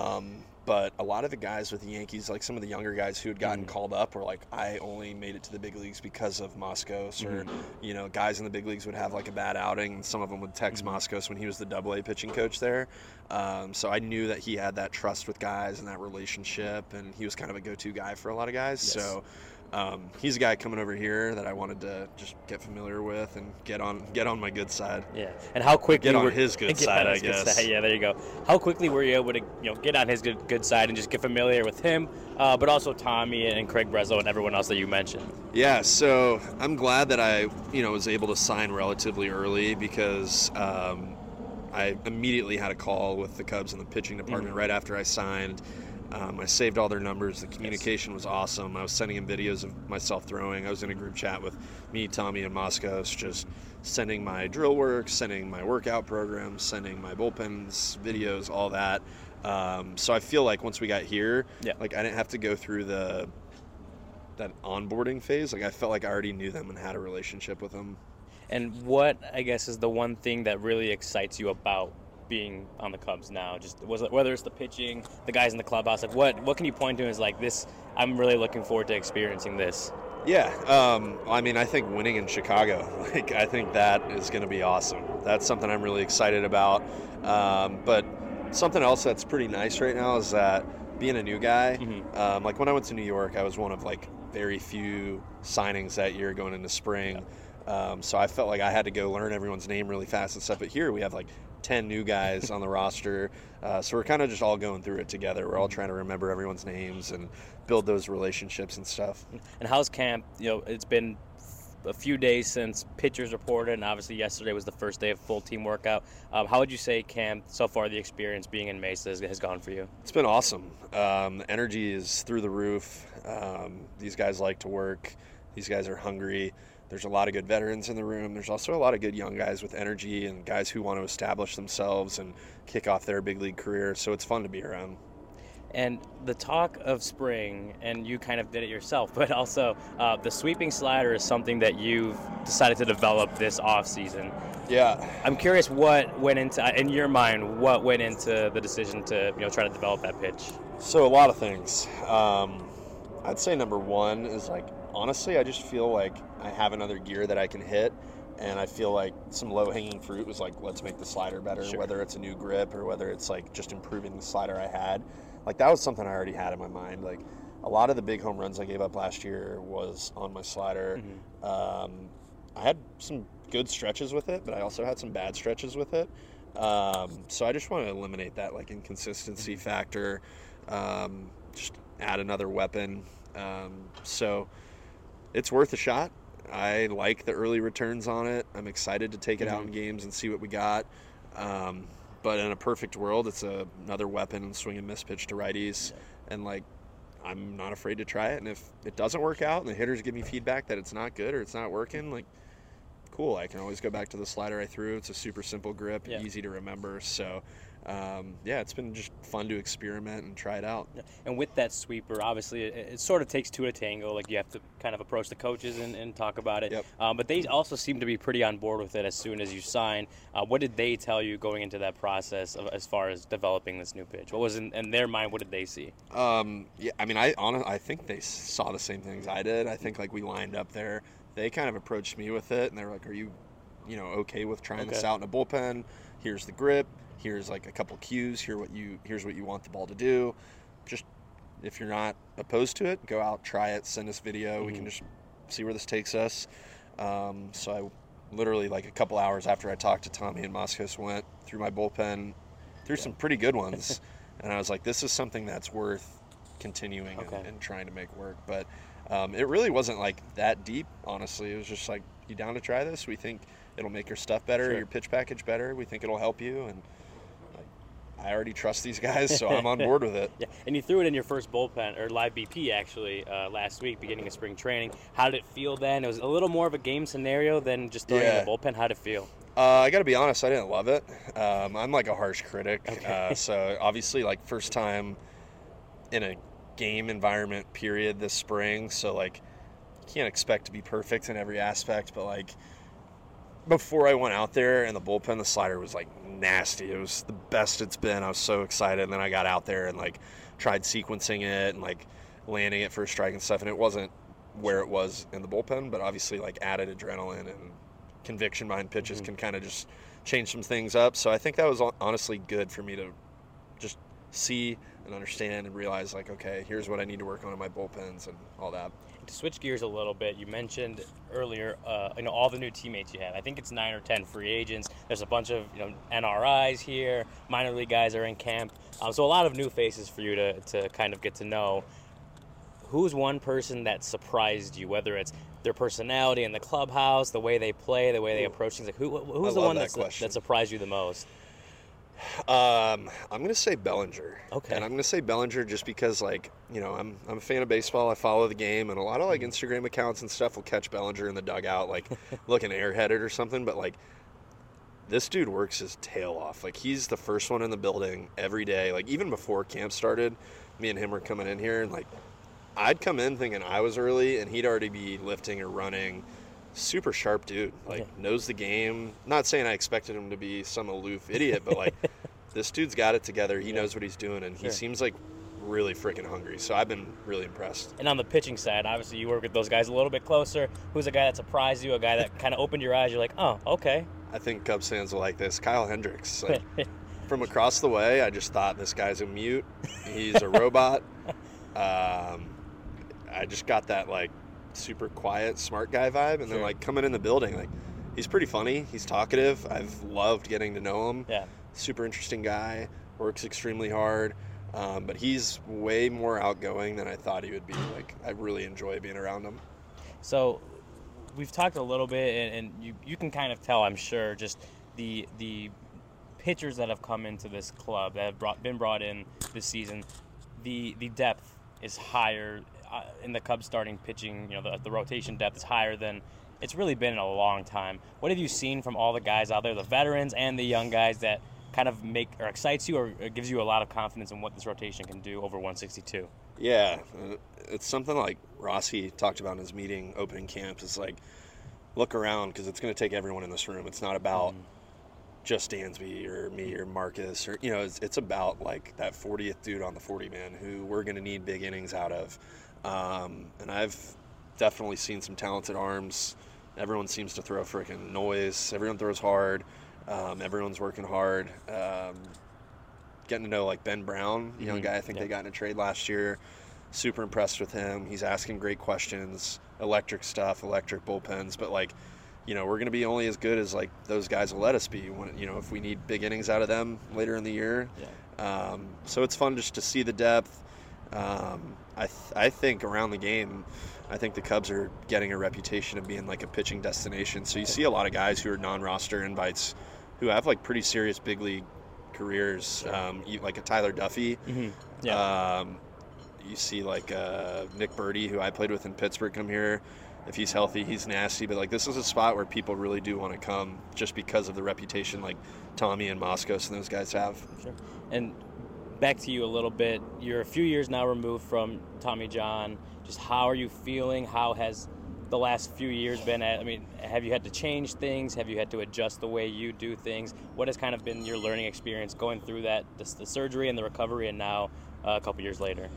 S6: But a lot of the guys with the Yankees, like some of the younger guys who had gotten called up, were like, I only made it to the big leagues because of Moskos. Or, guys in the big leagues would have like a bad outing, and some of them would text Moskos when he was the AA pitching coach there. So I knew that he had that trust with guys and that relationship, and he was kind of a go-to guy for a lot of guys. Yes. So he's a guy coming over here that I wanted to just get familiar with and get on my good side.
S5: Yeah, and how quickly
S6: get on his good side, I guess.
S5: Yeah, there you go. How quickly were you able to get on his good side and just get familiar with him, but also Tommy and Craig Breslow and everyone else that you mentioned?
S6: Yeah, so I'm glad that I was able to sign relatively early, because I immediately had a call with the Cubs in the pitching department right after I signed. I saved all their numbers. The communication was awesome. I was sending him videos of myself throwing. I was in a group chat with me, Tommy, and Moskos, just sending my drill work, sending my workout programs, sending my bullpens, videos, all that. So I feel like once we got here, like I didn't have to go through that onboarding phase. Like I felt like I already knew them and had a relationship with them. And
S5: what, I guess, is the one thing that really excites you about being on the Cubs now? Just whether it's the pitching, the guys in the clubhouse, like what can you point to as like this? I'm really looking forward to experiencing this.
S6: Yeah, I mean, I think winning in Chicago, like I think that is going to be awesome. That's something I'm really excited about. But something else that's pretty nice right now is that being a new guy,
S5: Mm-hmm.
S6: like when I went to New York, I was one of like very few signings that year going into spring. So I felt like I had to go learn everyone's name really fast and stuff. But here we have like 10 new guys on the roster. So we're kind of just all going through it together. We're all trying to remember everyone's names and build those relationships and stuff.
S5: And how's camp? You know, it's been a few days since pitchers reported, and obviously yesterday was the first day of full team workout. How would you say camp so far, the experience being in Mesa has gone for you?
S6: It's been awesome. The energy is through the roof. These guys like to work. These guys are hungry. There's a lot of good veterans in the room. There's also a lot of good young guys with energy and guys who want to establish themselves and kick off their big league career. So it's fun to be around.
S5: And the talk of spring, and you kind of did it yourself, but also the sweeping slider is something that you've decided to develop this offseason.
S6: Yeah.
S5: I'm curious what went into, in your mind, what went into the decision to try to develop that pitch?
S6: So a lot of things. I'd say number one is like, honestly, I just feel like I have another gear that I can hit. And I feel like some low-hanging fruit was like, let's make the slider better,
S5: Sure.
S6: whether it's a new grip or whether it's like just improving the slider I had. Like that was something I already had in my mind. Like a lot of the big home runs I gave up last year was on my slider. I had some good stretches with it, but I also had some bad stretches with it. So I just want to eliminate that like inconsistency factor, just add another weapon. So it's worth a shot. I like the early returns on it. I'm excited to take it out in games and see what we got. But in a perfect world, it's another weapon and swing and miss pitch to righties. And like, I'm not afraid to try it. And if it doesn't work out and the hitters give me feedback that it's not good or it's not working, like, cool. I can always go back to the slider I threw. It's a super simple grip, easy to remember. So, it's been just fun to experiment and try it out.
S5: And with that sweeper, obviously, it sort of takes two to tango. Like you have to kind of approach the coaches and talk about it.
S6: Yep.
S5: But they also seem to be pretty on board with it as soon as you sign. What did they tell you going into that process as far as developing this new pitch? What was in their mind? What did they see?
S6: I think they saw the same things I did. I think like we lined up there. They kind of approached me with it, and they were like, "Are you, okay with trying this out in a bullpen? Here's the grip. Here's like a couple cues. Here's what you want the ball to do. Just if you're not opposed to it, go out, try it, send us video. We can just see where this takes us." So I literally like a couple hours after I talked to Tommy and Moskos went through my bullpen, through some pretty good ones, and I was like, "This is something that's worth continuing and trying to make work." But it really wasn't like that deep, honestly. It was just like, "You down to try this? We think it'll make your stuff better, your pitch package better. We think it'll help you." And I already trust these guys, so I'm on board with it.
S5: Yeah, and you threw it in your first bullpen, or live BP actually, last week, beginning of spring training. How did it feel then? It was a little more of a game scenario than just throwing in the bullpen. How did it feel?
S6: I got to be honest, I didn't love it. I'm like a harsh critic. So obviously, like first time in a game environment period this spring, so like you can't expect to be perfect in every aspect, but like before I went out there in the bullpen, the slider was like nasty. It was the best it's been. I was so excited. And then I got out there and like tried sequencing it and like landing it for a strike and stuff. And it wasn't where it was in the bullpen, but obviously like added adrenaline and conviction behind pitches can kind of just change some things up. So I think that was honestly good for me to just see and understand and realize like, okay, here's what I need to work on in my bullpens and all that.
S5: To switch gears a little bit, you mentioned earlier, all the new teammates you have. I think it's 9 or 10 free agents. There's a bunch of NRIs here. Minor league guys are in camp. So a lot of new faces for you to kind of get to know. Who's one person that surprised you, whether it's their personality in the clubhouse, the way they play, the way they approach things? Like who's the one that surprised you the most?
S6: I'm going to say Bellinger.
S5: Okay.
S6: And I'm going to say Bellinger just because, like, I'm a fan of baseball. I follow the game, and a lot of, like, Instagram accounts and stuff will catch Bellinger in the dugout, like, looking airheaded or something. But, like, this dude works his tail off. Like, he's the first one in the building every day. Like, even before camp started, me and him were coming in here, and, like, I'd come in thinking I was early, and he'd already be lifting or running. Super sharp dude, like knows the game. Not saying I expected him to be some aloof idiot, but like this dude's got it together. He knows what he's doing, and he seems like really freaking hungry. So I've been really impressed.
S5: And on the pitching side, obviously you work with those guys a little bit closer. Who's a guy that surprised you? A guy that kind of opened your eyes? You're like, oh, okay.
S6: I think Cubs fans will like this. Kyle Hendricks. Like, from across the way, I just thought this guy's a mute. He's a robot. I just got that like super quiet, smart guy vibe, and then like coming in the building, like he's pretty funny. He's talkative. I've loved getting to know him.
S5: Yeah.
S6: Super interesting guy. Works extremely hard. But he's way more outgoing than I thought he would be. Like I really enjoy being around him.
S5: So we've talked a little bit, and you can kind of tell, I'm sure, just the pitchers that have come into this club that have been brought in this season. The depth is higher in the Cubs starting pitching. You know, the rotation depth is higher than it's really been in a long time. What have you seen from all the guys out there, the veterans and the young guys, that kind of make or excites you or gives you a lot of confidence in what this rotation can do over 162?
S6: Yeah, it's something like Rossi talked about in his meeting opening camp. It's like, look around, because it's going to take everyone in this room. It's not about just Dansby or me or Marcus, or it's about like that 40th dude on the 40 man who we're going to need big innings out of. And I've definitely seen some talented arms. Everyone seems to throw freaking noise. Everyone throws hard. Everyone's working hard. Getting to know like Ben Brown, young guy. I think they got in a trade last year. Super impressed with him. He's asking great questions, electric stuff, electric bullpens. But like, we're going to be only as good as like those guys will let us be. When if we need big innings out of them later in the year. Yeah. So it's fun just to see the depth. I think around the game, I think the Cubs are getting a reputation of being like a pitching destination. So you see a lot of guys who are non-roster invites who have like pretty serious big league careers, like a Tyler Duffy. You see like Nick Birdie, who I played with in Pittsburgh, come here. If he's healthy, he's nasty. But like this is a spot where people really do want to come just because of the reputation like Tommy and Moskos and those guys have.
S5: Sure. And back to you a little bit. You're a few years now removed from Tommy John. Just how are you feeling? How has the last few years been? Have you had to change things? Have you had to adjust the way you do things? What has kind of been your learning experience going through that, the surgery and the recovery, and now a couple years later?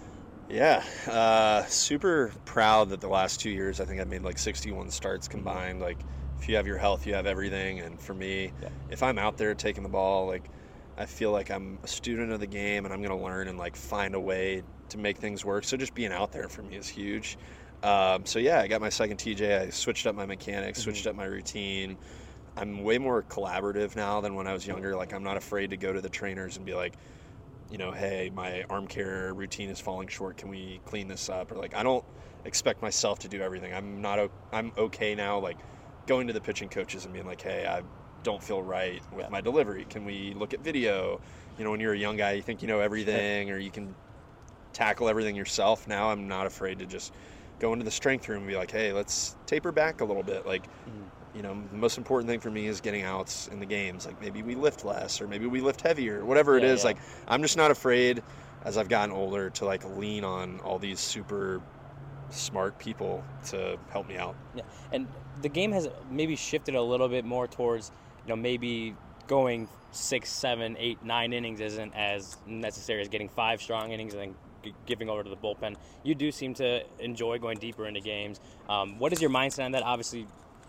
S6: Yeah, super proud that the last 2 years, I think I've made like 61 starts combined. Like, if you have your health, you have everything. And for me, if I'm out there taking the ball, like, I feel like I'm a student of the game and I'm going to learn and like find a way to make things work. So just being out there for me is huge. I got my second TJ. I switched up my mechanics, switched up my routine. I'm way more collaborative now than when I was younger. Like, I'm not afraid to go to the trainers and be like, hey, my arm care routine is falling short. Can we clean this up? Or like, I don't expect myself to do everything. I'm okay now, like going to the pitching coaches and being like, hey, I don't feel right with my delivery. Can we look at video? When you're a young guy, you think you know everything or you can tackle everything yourself. Now I'm not afraid to just go into the strength room and be like, hey, let's taper back a little bit. Like, the most important thing for me is getting outs in the games. Like, maybe we lift less or maybe we lift heavier, whatever it is. Like, I'm just not afraid as I've gotten older to like lean on all these super smart people to help me out. Yeah.
S5: And the game has maybe shifted a little bit more towards, maybe going 6, 7, 8, 9 innings isn't as necessary as getting 5 strong innings and then giving over to the bullpen. You do seem to enjoy going deeper into games. What is your mindset on that? Obviously,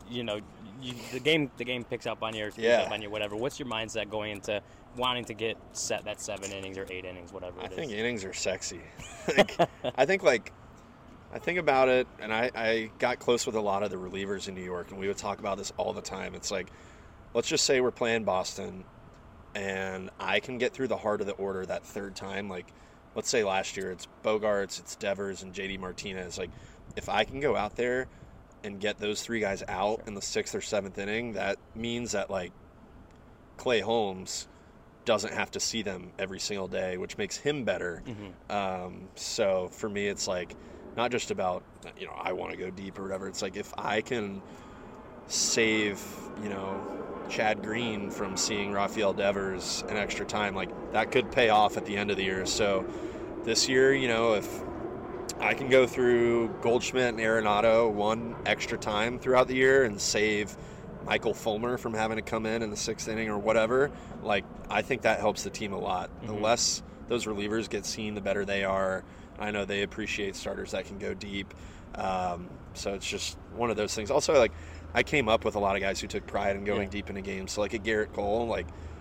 S5: the game picks up on you, up on you, whatever. What's your mindset going into wanting to get set that 7 innings or 8 innings, whatever it is?
S6: I think innings are sexy. I think about it, and I got close with a lot of the relievers in New York, and we would talk about this all the time. It's like, let's just say we're playing Boston, and I can get through the heart of the order that third time. Like, let's say last year it's Bogarts, it's Devers, and JD Martinez. Like, if I can go out there and get those 3 guys out in the 6th or 7th inning, that means that, like, Clay Holmes doesn't have to see them every single day, which makes him better. So for me, it's like not just about, I want to go deep or whatever. It's like if I can save, Chad Green from seeing Rafael Devers an extra time, like that could pay off at the end of the year. So this year, if I can go through Goldschmidt and Arenado 1 extra time throughout the year and save Michael Fulmer from having to come in the 6th inning or whatever, like I think that helps the team a lot. The less those relievers get seen, the better they are. I know they appreciate starters that can go deep. So it's just one of those things. Also, like, I came up with a lot of guys who took pride in going deep into games. So like a Garrett Cole, like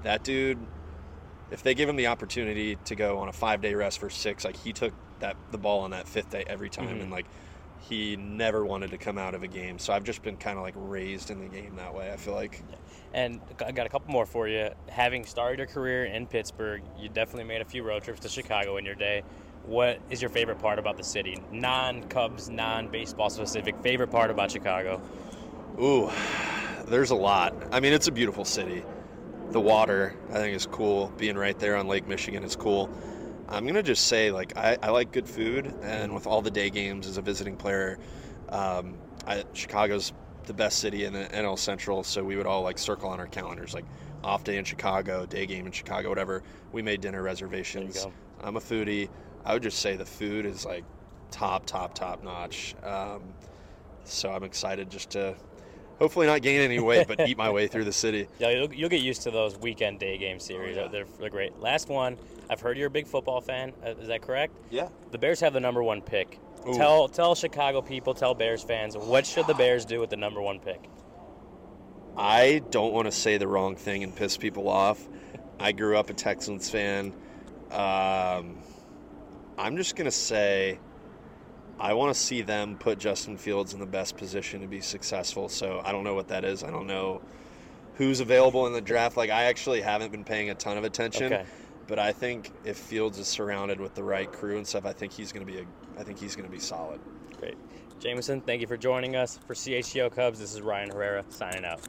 S6: that dude, if they give him the opportunity to go on a 5-day rest for 6, like he took the ball on that 5th day every time, and like he never wanted to come out of a game. So I've just been kind of like raised in the game that way, I feel like.
S5: And I got a couple more for you. Having started your career in Pittsburgh, you definitely made a few road trips to Chicago in your day. What is your favorite part about the city? Non-Cubs, non-baseball specific, favorite part about Chicago?
S6: Ooh, there's a lot. I mean, it's a beautiful city. The water, I think, is cool. Being right there on Lake Michigan is cool. I'm going to just say, like, I like good food, and with all the day games as a visiting player, Chicago's the best city in the NL Central, so we would all, like, circle on our calendars, like, off day in Chicago, day game in Chicago, whatever. We made dinner reservations.
S5: There you go.
S6: I'm a foodie. I would just say the food is, like, top notch. So I'm excited just to hopefully not gain any weight, but eat my way through the city.
S5: Yeah, you'll get used to those weekend day game series.
S6: Oh, yeah.
S5: They're great. Last one. I've heard you're a big football fan. Is that correct?
S6: Yeah.
S5: The Bears have the number 1 pick.
S6: Ooh.
S5: Tell Chicago people, tell Bears fans, what should the Bears do with the number 1 pick?
S6: I don't want to say the wrong thing and piss people off. I grew up a Texans fan. I'm just going to say I want to see them put Justin Fields in the best position to be successful. So I don't know what that is. I don't know who's available in the draft. Like, I actually haven't been paying a ton of attention.
S5: Okay.
S6: But I think if Fields is surrounded with the right crew and stuff, I think he's going to be solid.
S5: Great. Jameson, thank you for joining us. For CHGO Cubs, this is Ryan Herrera signing out.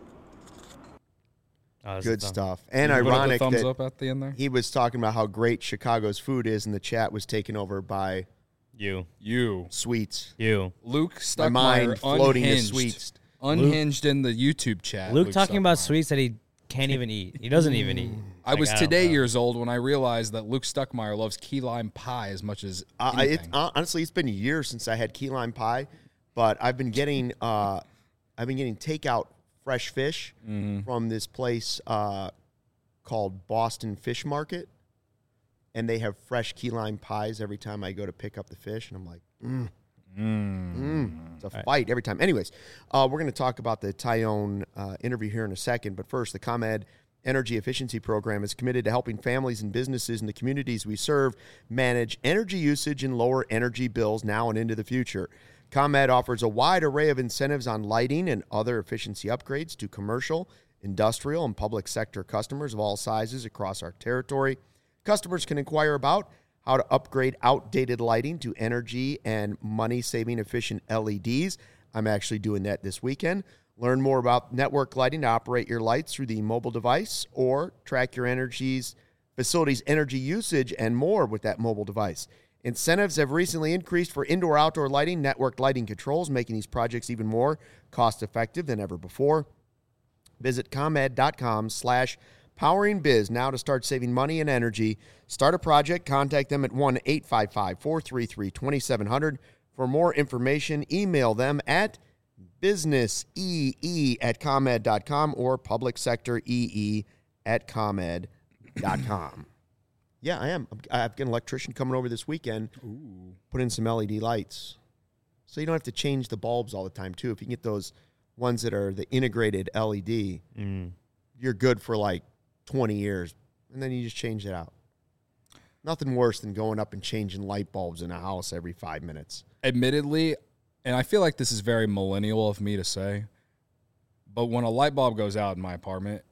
S1: Good stuff. And
S2: Put up the
S1: ironic
S2: thumbs
S1: that
S2: up at the end there.
S1: he was talking about how great Chicago's food is, and the chat was taken over by
S2: You.
S1: sweets.
S2: Luke
S1: My mind
S2: Stuckmeyer,
S1: floating to
S2: unhinged.
S1: sweets.
S2: Unhinged in the YouTube chat.
S3: Luke talking about
S2: Stuckmeyer.
S3: sweets that he can't even eat. He doesn't even eat.
S2: I was
S3: don't
S2: today
S3: know.
S2: years old when I realized that Luke Stuckmeyer loves key lime pie as much as anything.
S1: Honestly, it's been years since I had key lime pie, but I've been getting takeout fresh fish from this place called Boston Fish Market, and they have fresh key lime pies every time I go to pick up the fish, and I'm like, it's a fight every time. Anyways, we're going to talk about the Tyone interview here in a second, but first, the ComEd Energy Efficiency Program is committed to helping families and businesses in the communities we serve manage energy usage and lower energy bills now and into the future. ComEd offers a wide array of incentives on lighting and other efficiency upgrades to commercial, industrial, and public sector customers of all sizes across our territory. Customers can inquire about how to upgrade outdated lighting to energy and money-saving efficient LEDs. I'm actually doing that this weekend. Learn more about network lighting to operate your lights through the mobile device or track your facility's energy usage and more with that mobile device. Incentives have recently increased for indoor-outdoor lighting, networked lighting controls, making these projects even more cost-effective than ever before. Visit ComEd.com/poweringbiz now to start saving money and energy. Start a project. Contact them at 1-855-433-2700. For more information, email them at businessee@comed.com or publicsectoree@comed.com. Yeah, I am. I've got an electrician coming over this weekend. Put in some LED lights. So you don't have to change the bulbs all the time, too. If you can get those ones that are the integrated LED, you're good for like 20 years. And then you just change it out. Nothing worse than going up and changing light bulbs in a house every 5 minutes.
S2: Admittedly, and I feel like this is very millennial of me to say, but when a light bulb goes out in my apartment,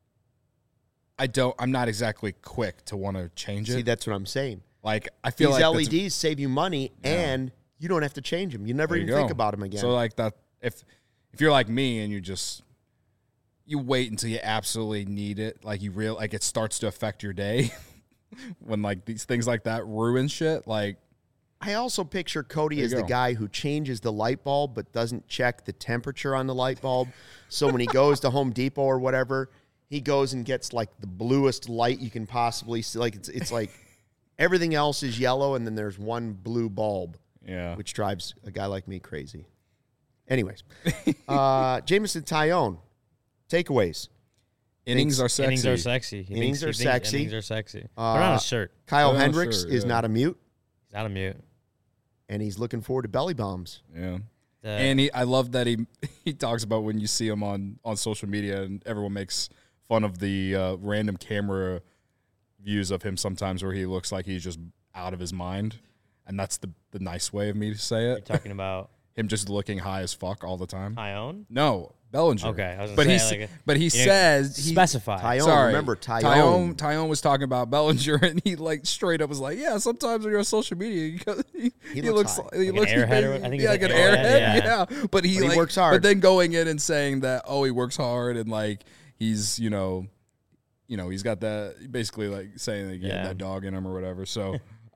S2: I'm not exactly quick to want to change it.
S1: See, that's what I'm saying.
S2: Like, I feel
S1: These
S2: like
S1: LEDs save you money, and you don't have to change them. You never even think about them again.
S2: So, like, that if you're like me and you wait until you absolutely need it, like it starts to affect your day when like these things like that ruin shit. Like,
S1: I also picture Cody as the guy who changes the light bulb but doesn't check the temperature on the light bulb. So when he goes to Home Depot or whatever, he goes and gets like the bluest light you can possibly see. Like it's like everything else is yellow and then there's one blue bulb.
S2: Yeah.
S1: Which drives a guy like me crazy. Anyways, Jameson Tyone, takeaways.
S2: Innings are sexy.
S3: Innings are sexy.
S1: Innings are sexy.
S3: Innings are sexy. Put on a shirt.
S1: Kyle
S2: Put on a
S1: Hendricks
S2: shirt,
S1: is not a mute,
S3: He's not a mute.
S1: and he's looking forward to belly bombs.
S2: Yeah. And I love that he talks about when you see him on social media and everyone makes fun of the random camera views of him sometimes where he looks like he's just out of his mind, and that's the nice way of me to say it.
S3: You're talking about
S2: him just looking high as fuck all the time.
S3: Tyone?
S2: No, Bellinger.
S3: Okay, I was
S2: but
S3: gonna say,
S2: he says he
S3: specify.
S1: Tyone,
S2: Sorry,
S1: remember Tyone.
S2: Tyone was talking about Bellinger, and he like straight up was like, "Yeah, sometimes when you're on social media, he looks
S1: high.
S2: he
S3: Like
S2: looks
S3: an airhead, I think
S2: yeah,
S3: he's
S2: like an
S3: like an
S2: airhead,
S3: airhead,
S2: yeah. But he
S1: works hard.
S2: But then going in and saying that, oh, he works hard, and like he's he's got that basically like saying that he had that dog in him or whatever. So.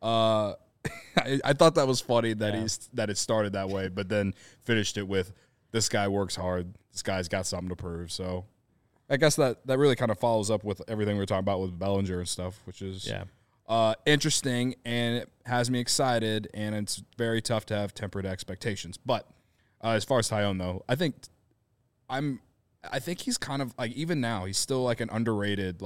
S2: I thought that was funny that that it started that way, but then finished it with, this guy works hard. This guy's got something to prove. So I guess that really kind of follows up with everything we were talking about with Bellinger and stuff, which is interesting, and it has me excited, and it's very tough to have tempered expectations. But as far as Tyone, though, I think he's kind of like, even now, he's still like an underrated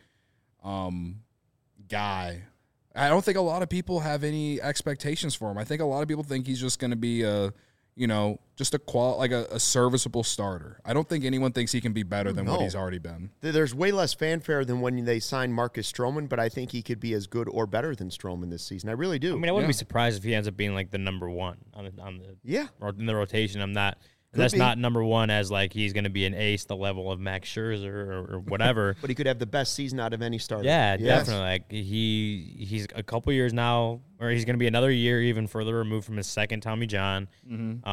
S2: guy. I don't think a lot of people have any expectations for him. I think a lot of people think he's just going to be just a serviceable starter. I don't think anyone thinks he can be better than what he's already been.
S1: There's way less fanfare than when they signed Marcus Stroman, but I think he could be as good or better than Stroman this season. I really do.
S3: I mean, I wouldn't be surprised if he ends up being like the number one in the rotation. I'm not. That's not number one as like he's going to be an ace, the level of Max Scherzer or whatever.
S1: But he could have the best season out of any starter.
S3: Yeah, definitely. Like he's a couple years now, or he's going to be another year even further removed from his second Tommy John.
S2: Mm-hmm.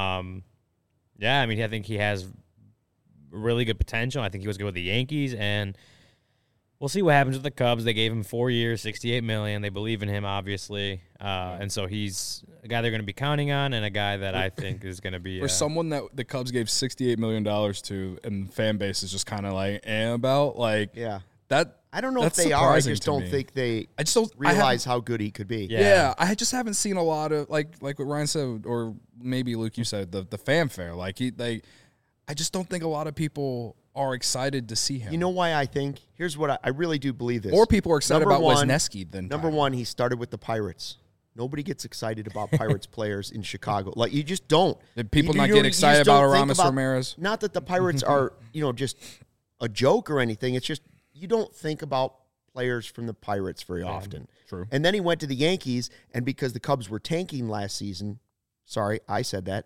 S3: I mean, I think he has really good potential. I think he was good with the Yankees, and we'll see what happens with the Cubs. They gave him 4 years, $68 million. They believe in him, obviously, and so he's a guy they're going to be counting on, and a guy that I think is going to be
S2: for someone that the Cubs gave $68 million to, and the fan base is just kind of like about that.
S1: I don't know if they are. I just don't think they.
S2: I just don't
S1: realize how good he could be.
S2: Yeah, I just haven't seen a lot of like what Ryan said, or maybe Luke, you said the fanfare. I just don't think a lot of people are excited to see him.
S1: You know why I think? Here's what I really do believe this.
S2: Or people are excited about Wisniewski than
S1: Number one, he started with the Pirates. Nobody gets excited about Pirates players in Chicago. Like, you just don't.
S2: Did people not get excited about Aramis Ramirez?
S1: Not that the Pirates are, just a joke or anything. It's just you don't think about players from the Pirates very often.
S2: True.
S1: And then he went to the Yankees, and because the Cubs were tanking last season, sorry, I said that.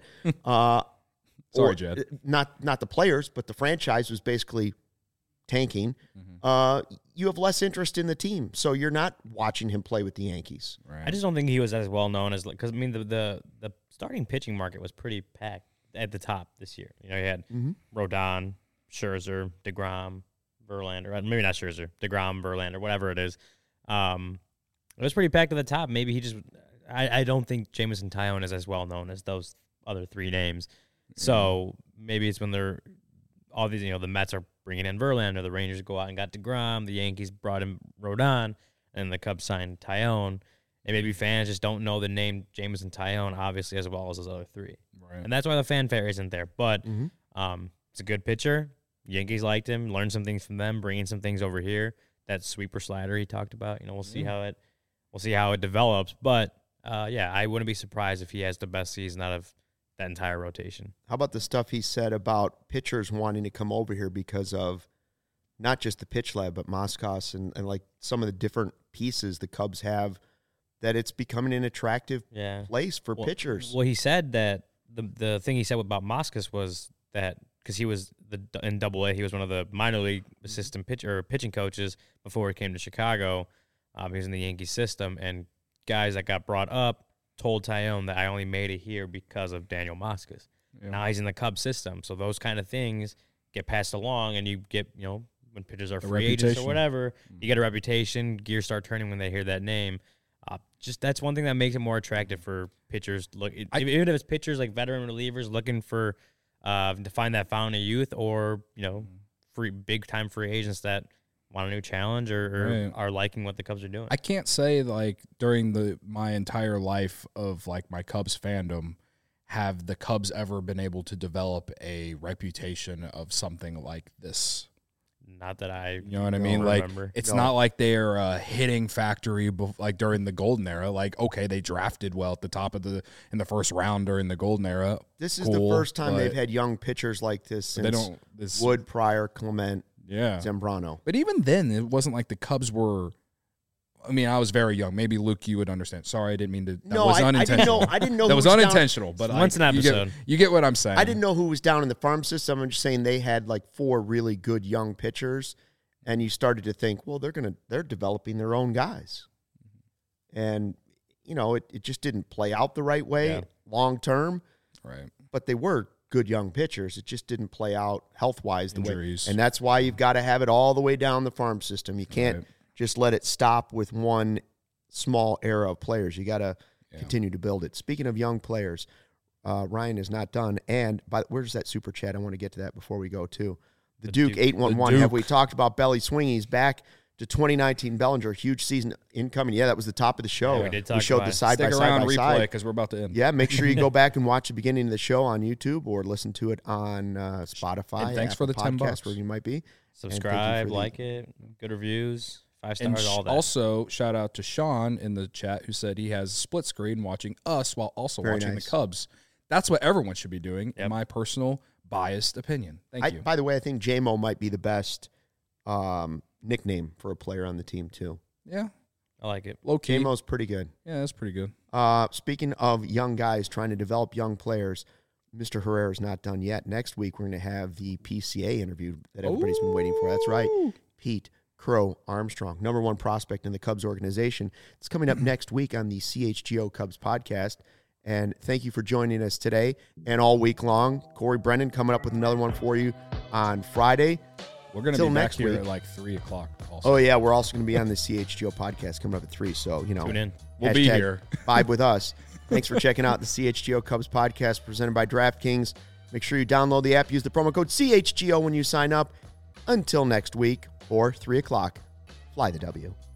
S2: Sorry, Jed.
S1: Not the players, but the franchise was basically tanking. Mm-hmm. You have less interest in the team, so you're not watching him play with the Yankees.
S3: Right. I just don't think he was as well known as, because I mean the starting pitching market was pretty packed at the top this year. You had Rodon, Scherzer, DeGrom, Verlander, maybe not Scherzer, DeGrom, Verlander, whatever it is. It was pretty packed at the top. Maybe he just, I don't think Jameson Tyone is as well known as those other three names. So maybe it's when they're all these, the Mets are bringing in Verlander, the Rangers go out and got DeGrom, the Yankees brought in Rodon, and the Cubs signed Tyone. And maybe fans just don't know the name Jameson Tyone, obviously, as well as those other three. Right. And that's why the fanfare isn't there. But it's a good pitcher. Yankees liked him, learned some things from them, bringing some things over here. That sweeper slider he talked about, we'll see how it develops. But I wouldn't be surprised if he has the best season out of that entire rotation.
S1: How about the stuff he said about pitchers wanting to come over here because of not just the pitch lab, but Moskos and like some of the different pieces the Cubs have, that it's becoming an attractive place for pitchers.
S3: Well, he said that the thing he said about Moskos was that because he was in Double-A, he was one of the minor league assistant pitching coaches before he came to Chicago. He was in the Yankee system, and guys that got brought up told Tyone that I only made it here because of Daniel Moskos. Yeah. Now he's in the Cubs system, so those kind of things get passed along, and you get, when pitchers are free agents or whatever, you get a reputation, gears start turning when they hear that name. Just that's one thing that makes it more attractive for pitchers. Even if it's pitchers like veteran relievers looking for to find that fountain of youth, or big time free agents that want a new challenge or are liking what the Cubs are doing.
S2: I can't say during my entire life of my Cubs fandom, have the Cubs ever been able to develop a reputation of something like this.
S3: Not that I,
S2: you know what I mean?
S3: Remember.
S2: It's not like they're a hitting factory during the golden era. Okay, they drafted well at the top of in the first round during the golden era.
S1: This is the first time they've had young pitchers like this since Wood, Pryor, Clement. Zambrano.
S2: But even then, it wasn't like the Cubs were. I mean, I was very young. Maybe Luke, you would understand. Sorry, I didn't mean to. That was unintentional.
S1: I didn't know.
S2: That was unintentional. But
S3: once an episode,
S2: you get what I'm saying.
S1: I didn't know who was down in the farm system. I'm just saying they had like 4 really good young pitchers, and you started to think, well, they're developing their own guys, and it just didn't play out the right way long term.
S2: Right.
S1: But they were good young pitchers. It just didn't play out health-wise the
S2: Injuries.
S1: way. And that's why you've got to have it all the way down the farm system. You can't just let it stop with one small era of players. You got to continue to build it. Speaking of young players, Ryan is not done. And where's that super chat? I want to get to that before we go, too. The Duke 811. Have we talked about Belly Swingies back to 2019 Bellinger? Huge season incoming. Yeah, that was the top of the show.
S3: Yeah, we did talk
S1: showed
S3: about
S1: the
S3: it.
S1: side by
S2: Stick
S1: side
S2: around
S1: by
S2: replay
S1: side.
S2: because we're about to end.
S1: Yeah, make sure you go back and watch the beginning of the show on YouTube or listen to it on Spotify.
S2: And thanks for the
S1: Apple
S2: $10.
S1: Podcasts, wherever you might be.
S3: subscribe, like it, good reviews, 5 stars, all that.
S2: Also, shout out to Sean in the chat who said he has split screen watching us while also watching the Cubs. That's what everyone should be doing, in my personal biased opinion. Thank you.
S1: By the way, I think J-Mo might be the best nickname for a player on the team, too.
S2: Yeah.
S3: I like it.
S2: Low key.
S1: J-Mo's pretty good.
S2: Yeah, that's pretty good.
S1: Speaking of young guys trying to develop young players, Mr. Herrera's not done yet. Next week, we're going to have the PCA interview that everybody's been waiting for. That's right. Pete Crow Armstrong, #1 prospect in the Cubs organization. It's coming up next week on the CHGO Cubs podcast. And thank you for joining us today and all week long. Corey Brennan coming up with another one for you on Friday.
S2: We're going to be back
S1: next
S2: here
S1: week.
S2: at like 3 o'clock also.
S1: Oh, yeah, we're also going to be on the CHGO podcast coming up at 3. So,
S3: Tune in.
S2: We'll be here.
S1: Vibe with us. Thanks for checking out the CHGO Cubs podcast presented by DraftKings. Make sure you download the app. Use the promo code CHGO when you sign up. Until next week or 3 o'clock, fly the W.